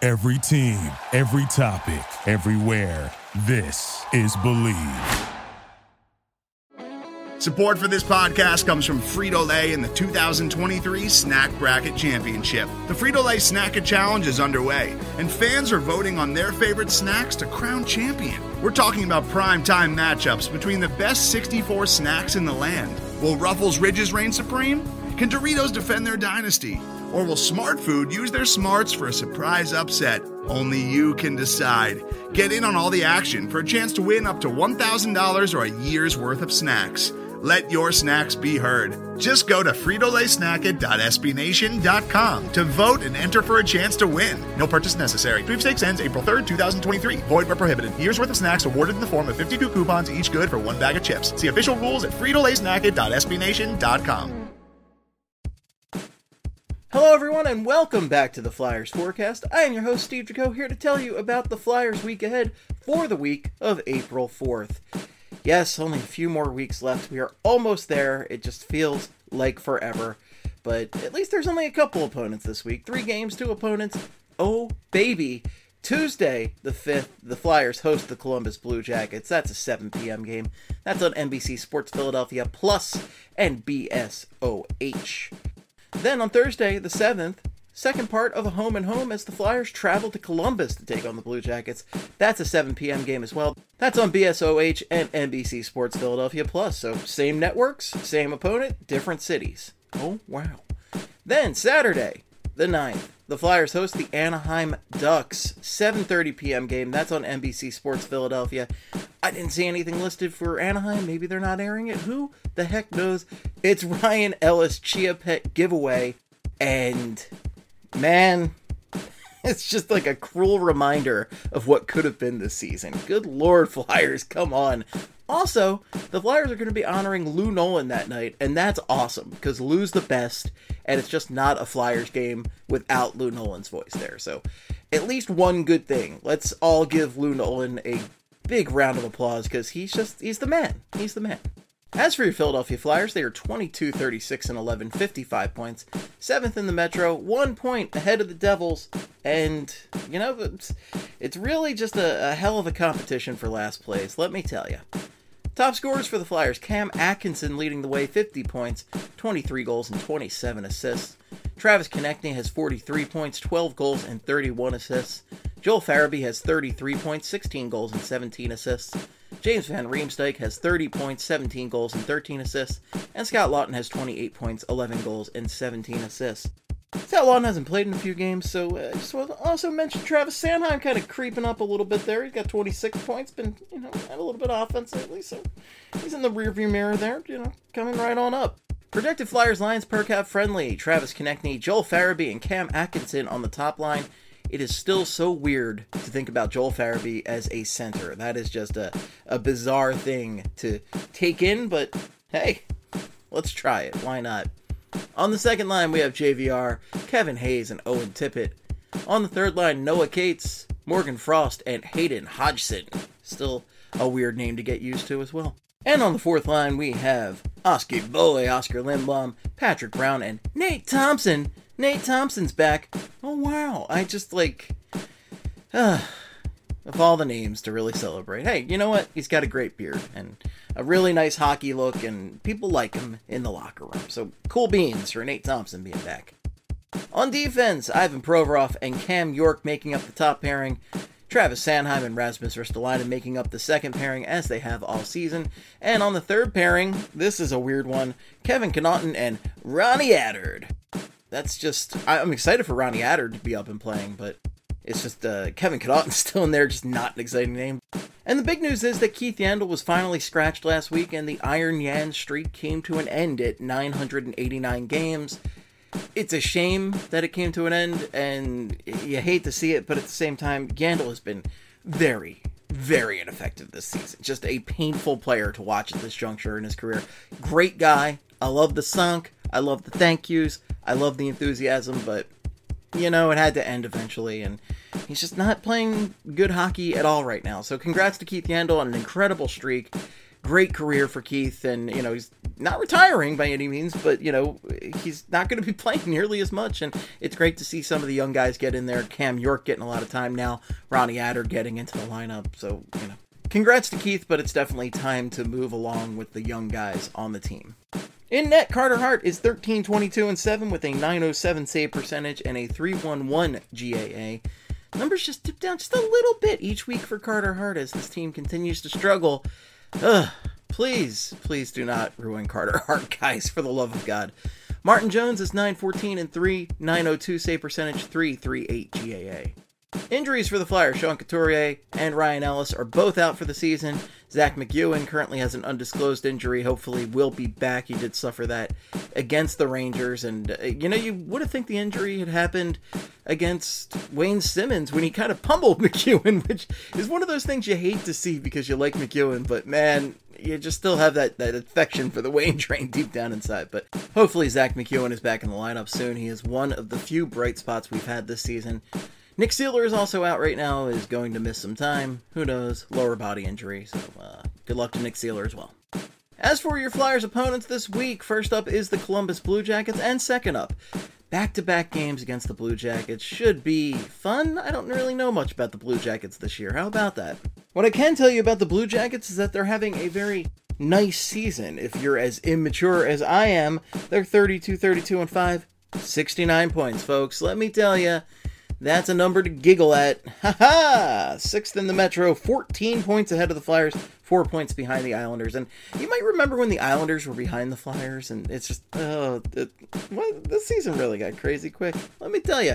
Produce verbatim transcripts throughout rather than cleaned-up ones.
Every team, every topic, everywhere. This is Believe. Support for this podcast comes from Frito-Lay and the two thousand twenty-three Snack Bracket Championship. The Frito-Lay Snack-A Challenge is underway, and fans are voting on their favorite snacks to crown champion. We're talking about prime-time matchups between the best sixty-four snacks in the land. Will Ruffles Ridges reign supreme? Can Doritos defend their dynasty? Or will Smart Food use their smarts for a surprise upset? Only you can decide. Get in on all the action for a chance to win up to one thousand dollars or a year's worth of snacks. Let your snacks be heard. Just go to Frito Lay Snack It dot S B Nation dot com to vote and enter for a chance to win. No purchase necessary. Sweepstakes ends April third, twenty twenty-three. Void where prohibited. Year's worth of snacks awarded in the form of fifty-two coupons, each good for one bag of chips. See official rules at Frito Lay Snack It dot S B Nation dot com. Hello everyone and welcome back to the Flyers Forecast. I am your host Steve Jaco, here to tell you about the Flyers week ahead for the week of April fourth. Yes, only a few more weeks left. We are almost there. It just feels like forever. But at least there's only a couple opponents this week. Three games, two opponents. Oh, baby. Tuesday, the fifth, the Flyers host the Columbus Blue Jackets. That's a seven p.m. game. That's on N B C Sports Philadelphia Plus and B S O H. Then on Thursday, the seventh, second part of a home and home as the Flyers travel to Columbus to take on the Blue Jackets. That's a seven p.m. game as well. That's on B S O H and N B C Sports Philadelphia Plus. So same networks, same opponent, different cities. Oh, wow. Then Saturday, the ninth, the Flyers host the Anaheim Ducks. seven thirty p.m. game. That's on N B C Sports Philadelphia. I didn't see anything listed for Anaheim. Maybe they're not airing it. Who the heck knows? It's Ryan Ellis Chia Pet giveaway. And, man, it's just like a cruel reminder of what could have been this season. Good Lord, Flyers, come on. Also, the Flyers are going to be honoring Lou Nolan that night, and that's awesome, because Lou's the best, and it's just not a Flyers game without Lou Nolan's voice there. So, at least one good thing. Let's all give Lou Nolan a big round of applause, because he's just, he's the man. He's the man. As for your Philadelphia Flyers, they are twenty-two, thirty-six, and eleven, fifty-five points. seventh in the Metro, one point ahead of the Devils, and, you know, it's, it's really just a, a hell of a competition for last place, let me tell you. Top scorers for the Flyers, Cam Atkinson leading the way, fifty points, twenty-three goals, and twenty-seven assists. Travis Konechny has forty-three points, twelve goals, and thirty-one assists. Joel Farabee has thirty-three points, sixteen goals, and seventeen assists. James Van Riemsdyk has thirty points, seventeen goals, and thirteen assists. And Scott Laughton has twenty-eight points, eleven goals, and seventeen assists. Scott Laughton hasn't played in a few games, so I uh, just want to also mention Travis Sanheim kind of creeping up a little bit there. He's got twenty-six points, been, you know, had a little bit offensively, so he's in the rearview mirror there, you know, coming right on up. Projected Flyers lines per cap friendly, Travis Konechny, Joel Farabee, and Cam Atkinson on the top line. It is still so weird to think about Joel Farabee as a center. That is just a, a bizarre thing to take in, but hey, let's try it. Why not? On the second line, we have J V R, Kevin Hayes, and Owen Tippett. On the third line, Noah Cates, Morgan Frost, and Hayden Hodgson. Still a weird name to get used to as well. And on the fourth line, we have Oskar Boy, Oscar Lindblom, Patrick Brown, and Nate Thompson. Nate Thompson's back. Oh, wow. I just, like, uh, of all the names to really celebrate. Hey, you know what? He's got a great beard and a really nice hockey look, and people like him in the locker room. So, cool beans for Nate Thompson being back. On defense, Ivan Provorov and Cam York making up the top pairing. Travis Sanheim and Rasmus Ristolainen making up the second pairing, as they have all season. And on the third pairing, this is a weird one, Kevin Connauton and Ronnie Attard. That's just, I'm excited for Ronnie Attard to be up and playing, but it's just uh, Kevin Connauton's still in there, just not an exciting name. And the big news is that Keith Yandle was finally scratched last week, and the Iron Yan streak came to an end at nine hundred eighty-nine games. It's a shame that it came to an end, and you hate to see it, but at the same time, Yandle has been very, very ineffective this season. Just a painful player to watch at this juncture in his career. Great guy. I love the sunk. I love the thank yous. I love the enthusiasm, but, you know, it had to end eventually, and he's just not playing good hockey at all right now. So congrats to Keith Yandle on an incredible streak. Great career for Keith, and, you know, he's not retiring by any means, but, you know, he's not going to be playing nearly as much, and it's great to see some of the young guys get in there. Cam York getting a lot of time now, Ronnie Adder getting into the lineup, so, you know, congrats to Keith, but it's definitely time to move along with the young guys on the team. In net, Carter Hart is thirteen, twenty-two, and seven with a nine oh seven save percentage and a three eleven G A A. Numbers just dip down just a little bit each week for Carter Hart as this team continues to struggle. Ugh, please, please do not ruin Carter Hart, guys, for the love of God. Martin Jones is nine fourteen and three, nine oh two save percentage, three thirty-eight G A A. Injuries for the Flyers, Sean Couturier and Ryan Ellis are both out for the season. Zach McEwen currently has an undisclosed injury, hopefully will be back. He did suffer that against the Rangers, and uh, you know, you would have think the injury had happened against Wayne Simmons when he kind of pummeled McEwen, which is one of those things you hate to see because you like McEwen, but man, you just still have that, that affection for the Wayne train deep down inside. But hopefully Zach McEwen is back in the lineup soon. He is one of the few bright spots we've had this season. Nick Seeler is also out right now, is going to miss some time. Who knows? Lower body injury, so uh, good luck to Nick Seeler as well. As for your Flyers opponents this week, first up is the Columbus Blue Jackets, and second up, back-to-back games against the Blue Jackets. Should be fun. I don't really know much about the Blue Jackets this year. How about that? What I can tell you about the Blue Jackets is that they're having a very nice season. If you're as immature as I am, they're thirty-two, thirty-two, and five, sixty-nine points, folks. Let me tell you, that's a number to giggle at. Ha ha! Sixth in the Metro, fourteen points ahead of the Flyers, four points behind the Islanders. And you might remember when the Islanders were behind the Flyers, and it's just, oh, it, what, this season really got crazy quick. Let me tell you.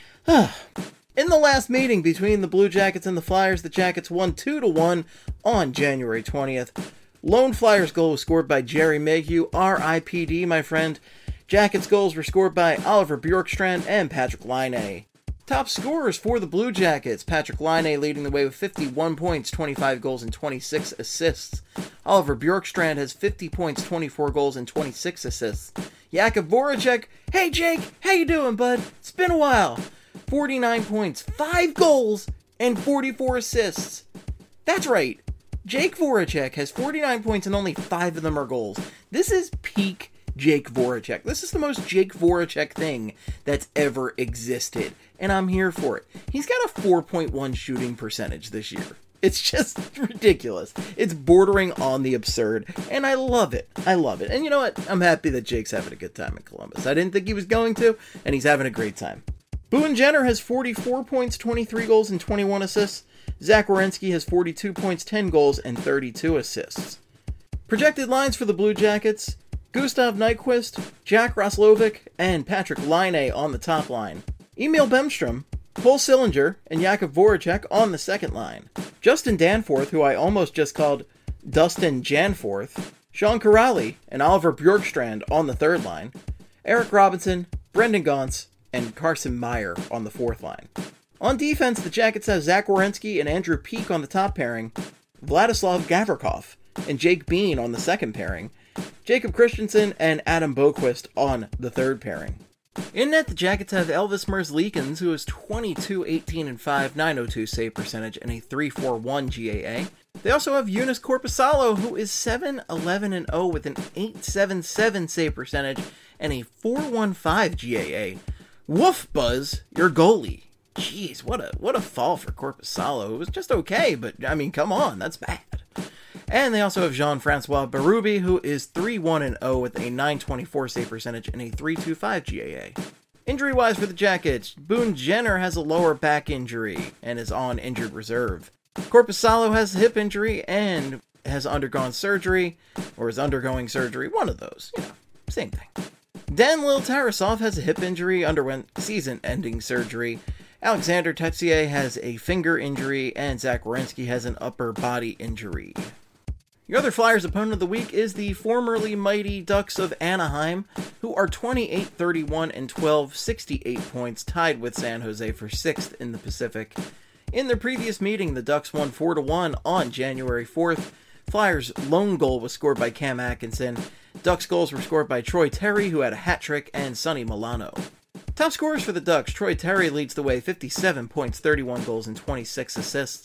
In the last meeting between the Blue Jackets and the Flyers, the Jackets won two to one on January twentieth. Lone Flyers goal was scored by Jerry Mayhew, R I P D, my friend. Jackets goals were scored by Oliver Bjorkstrand and Patrick Laine. Top scorers for the Blue Jackets, Patrick Laine leading the way with fifty-one points, twenty-five goals, and twenty-six assists. Oliver Bjorkstrand has fifty points, twenty-four goals, and twenty-six assists. Jakub Voracek, hey Jake, how you doing, bud? It's been a while. forty-nine points, five goals, and forty-four assists. That's right, Jake Voracek has forty-nine points and only five of them are goals. This is peak Jake Voracek. This is the most Jake Voracek thing that's ever existed, and I'm here for it. He's got a four point one shooting percentage this year. It's just ridiculous. It's bordering on the absurd, and I love it. I love it. And you know what? I'm happy that Jake's having a good time in Columbus. I didn't think he was going to, and he's having a great time. Boone Jenner has forty-four points, twenty-three goals, and twenty-one assists. Zach Werenski has forty-two points, ten goals, and thirty-two assists. Projected lines for the Blue Jackets: Gustav Nyquist, Jack Roslovic, and Patrick Laine on the top line. Emil Bemstrom, Cole Sillinger, and Jakub Voracek on the second line. Justin Danforth, who I almost just called Dustin Janforth. Sean Kuraly and Oliver Bjorkstrand on the third line. Eric Robinson, Brendan Gaunce, and Carson Meyer on the fourth line. On defense, the Jackets have Zach Werenski and Andrew Peeke on the top pairing, Vladislav Gavrikov and Jake Bean on the second pairing, Jacob Christensen and Adam Boqvist on the third pairing. In net, the Jackets have Elvis Merzlikins, who is twenty-two, eighteen, and five, nine oh two save percentage, and a three forty-one G A A. They also have Joonas Korpisalo, who is seven, eleven, and oh with an eight seventy-seven save percentage and a four fifteen G A A. Woof, Buzz, your goalie. Jeez, what a what a fall for Korpisalo. It was just okay, but I mean, come on, that's bad. And they also have Jean-Francois Berube, who is three one and oh with a nine twenty-four save percentage and a three twenty-five G A A. Injury-wise for the Jackets, Boone Jenner has a lower back injury and is on injured reserve. Korpisalo has a hip injury and has undergone surgery, or is undergoing surgery, one of those, you know, same thing. Danil Tarasov has a hip injury, underwent season-ending surgery. Alexander Texier has a finger injury, and Zach Werenski has an upper body injury. Your other Flyers opponent of the week is the formerly mighty Ducks of Anaheim, who are twenty-eight, thirty-one, and twelve, sixty-eight points, tied with San Jose for sixth in the Pacific. In their previous meeting, the Ducks won four to one on January fourth. Flyers' lone goal was scored by Cam Atkinson. Ducks goals were scored by Troy Terry, who had a hat trick, and Sonny Milano. Top scorers for the Ducks: Troy Terry leads the way, fifty-seven points, thirty-one goals, and twenty-six assists.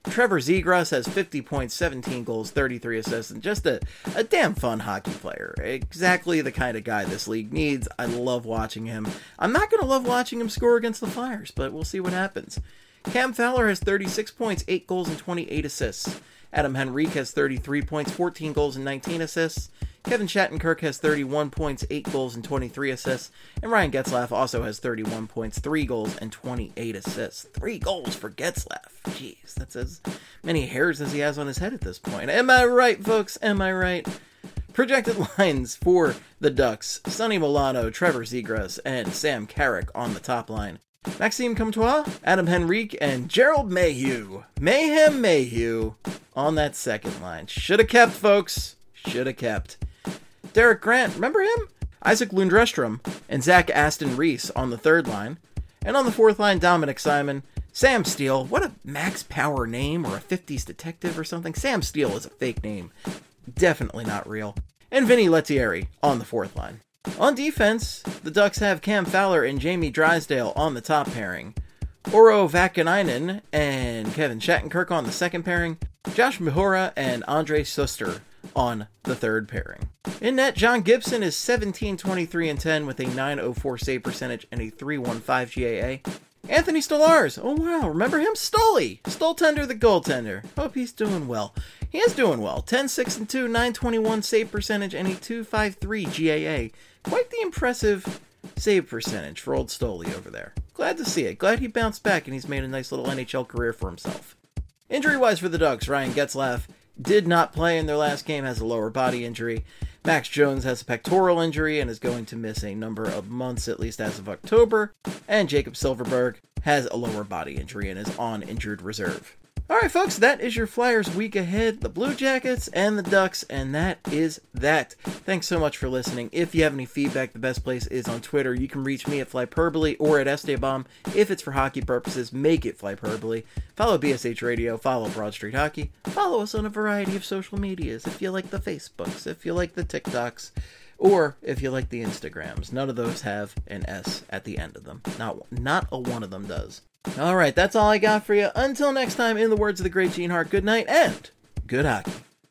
Trevor Zegras has fifty points, seventeen goals, thirty-three assists, and just a, a damn fun hockey player. Exactly the kind of guy this league needs. I love watching him. I'm not going to love watching him score against the Flyers, but we'll see what happens. Cam Fowler has thirty-six points, eight goals, and twenty-eight assists. Adam Henrique has thirty-three points, fourteen goals, and nineteen assists. Kevin Shattenkirk has thirty-one points, eight goals, and twenty-three assists. And Ryan Getzlaf also has thirty-one points, three goals, and twenty-eight assists. Three goals for Getzlaf. Jeez, that's as many hairs as he has on his head at this point. Am I right, folks? Am I right? Projected lines for the Ducks: Sonny Milano, Trevor Zegras, and Sam Carrick on the top line. Maxime Comtois, Adam Henrique, and Gerald Mayhew. Mayhem Mayhew on that second line. Should have kept, folks. Should have kept. Derek Grant, remember him? Isaac Lundrestrom and Zach Aston Reese on the third line. And on the fourth line, Dominic Simon, Sam Steele. What a Max Power name, or a fifties detective or something. Sam Steele is a fake name. Definitely not real. And Vinny Lettieri on the fourth line. On defense, the Ducks have Cam Fowler and Jamie Drysdale on the top pairing, Oro Vakanainen and Kevin Shattenkirk on the second pairing, Josh Mahura and Andre Suster on the third pairing. In net, John Gibson is seventeen, twenty-three, and ten with a nine oh four save percentage and a three fifteen G A A. Anthony Stolarz, oh wow, remember him? Stoley, Stoltender the goaltender. Hope he's doing well. He is doing well. ten, six, and two, nine twenty-one save percentage and a two fifty-three G A A. Quite the impressive save percentage for old Stoley over there. Glad to see it. Glad he bounced back and he's made a nice little N H L career for himself. Injury-wise for the Ducks, Ryan Getzlaf did not play in their last game, has a lower body injury. Max Jones has a pectoral injury and is going to miss a number of months, at least as of October. And Jacob Silverberg has a lower body injury and is on injured reserve. Alright folks, that is your Flyers week ahead, the Blue Jackets and the Ducks, and that is that. Thanks so much for listening. If you have any feedback, the best place is on Twitter. You can reach me at Flyperbole or at Esteban. If it's for hockey purposes, make it Flyperbole. Follow B S H Radio, follow Broad Street Hockey, follow us on a variety of social medias, if you like the Facebooks, if you like the TikToks, or if you like the Instagrams. None of those have an S at the end of them. Not, not a one of them does. Alright, that's all I got for you. Until next time, in the words of the great Gene Hart, good night and good hockey.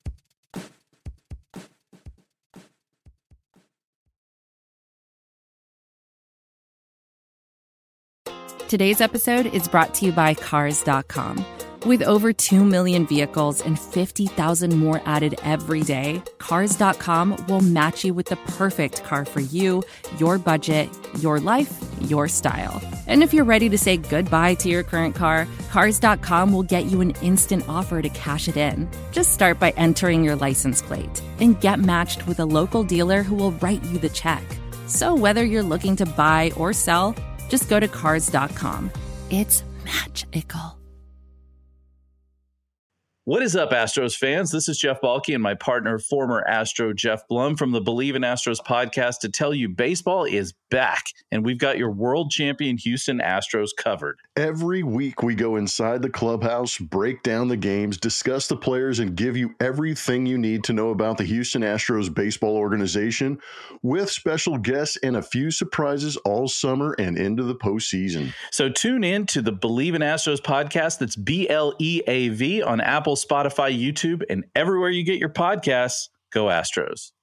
Today's episode is brought to you by Cars dot com. With over two million vehicles and fifty thousand more added every day, Cars dot com will match you with the perfect car for you, your budget, your life, your style. And if you're ready to say goodbye to your current car, Cars dot com will get you an instant offer to cash it in. Just start by entering your license plate and get matched with a local dealer who will write you the check. So whether you're looking to buy or sell, just go to Cars dot com. It's magical. What is up, Astros fans? This is Jeff Balke and my partner, former Astro Jeff Blum from the Believe in Astros podcast to tell you baseball is back, and we've got your world champion Houston Astros covered. Every week we go inside the clubhouse, break down the games, discuss the players, and give you everything you need to know about the Houston Astros baseball organization with special guests and a few surprises all summer and into the postseason. So tune in to the Believe in Astros podcast. That's B L E A V on Apple, Spotify, YouTube, and everywhere you get your podcasts. Go Astros.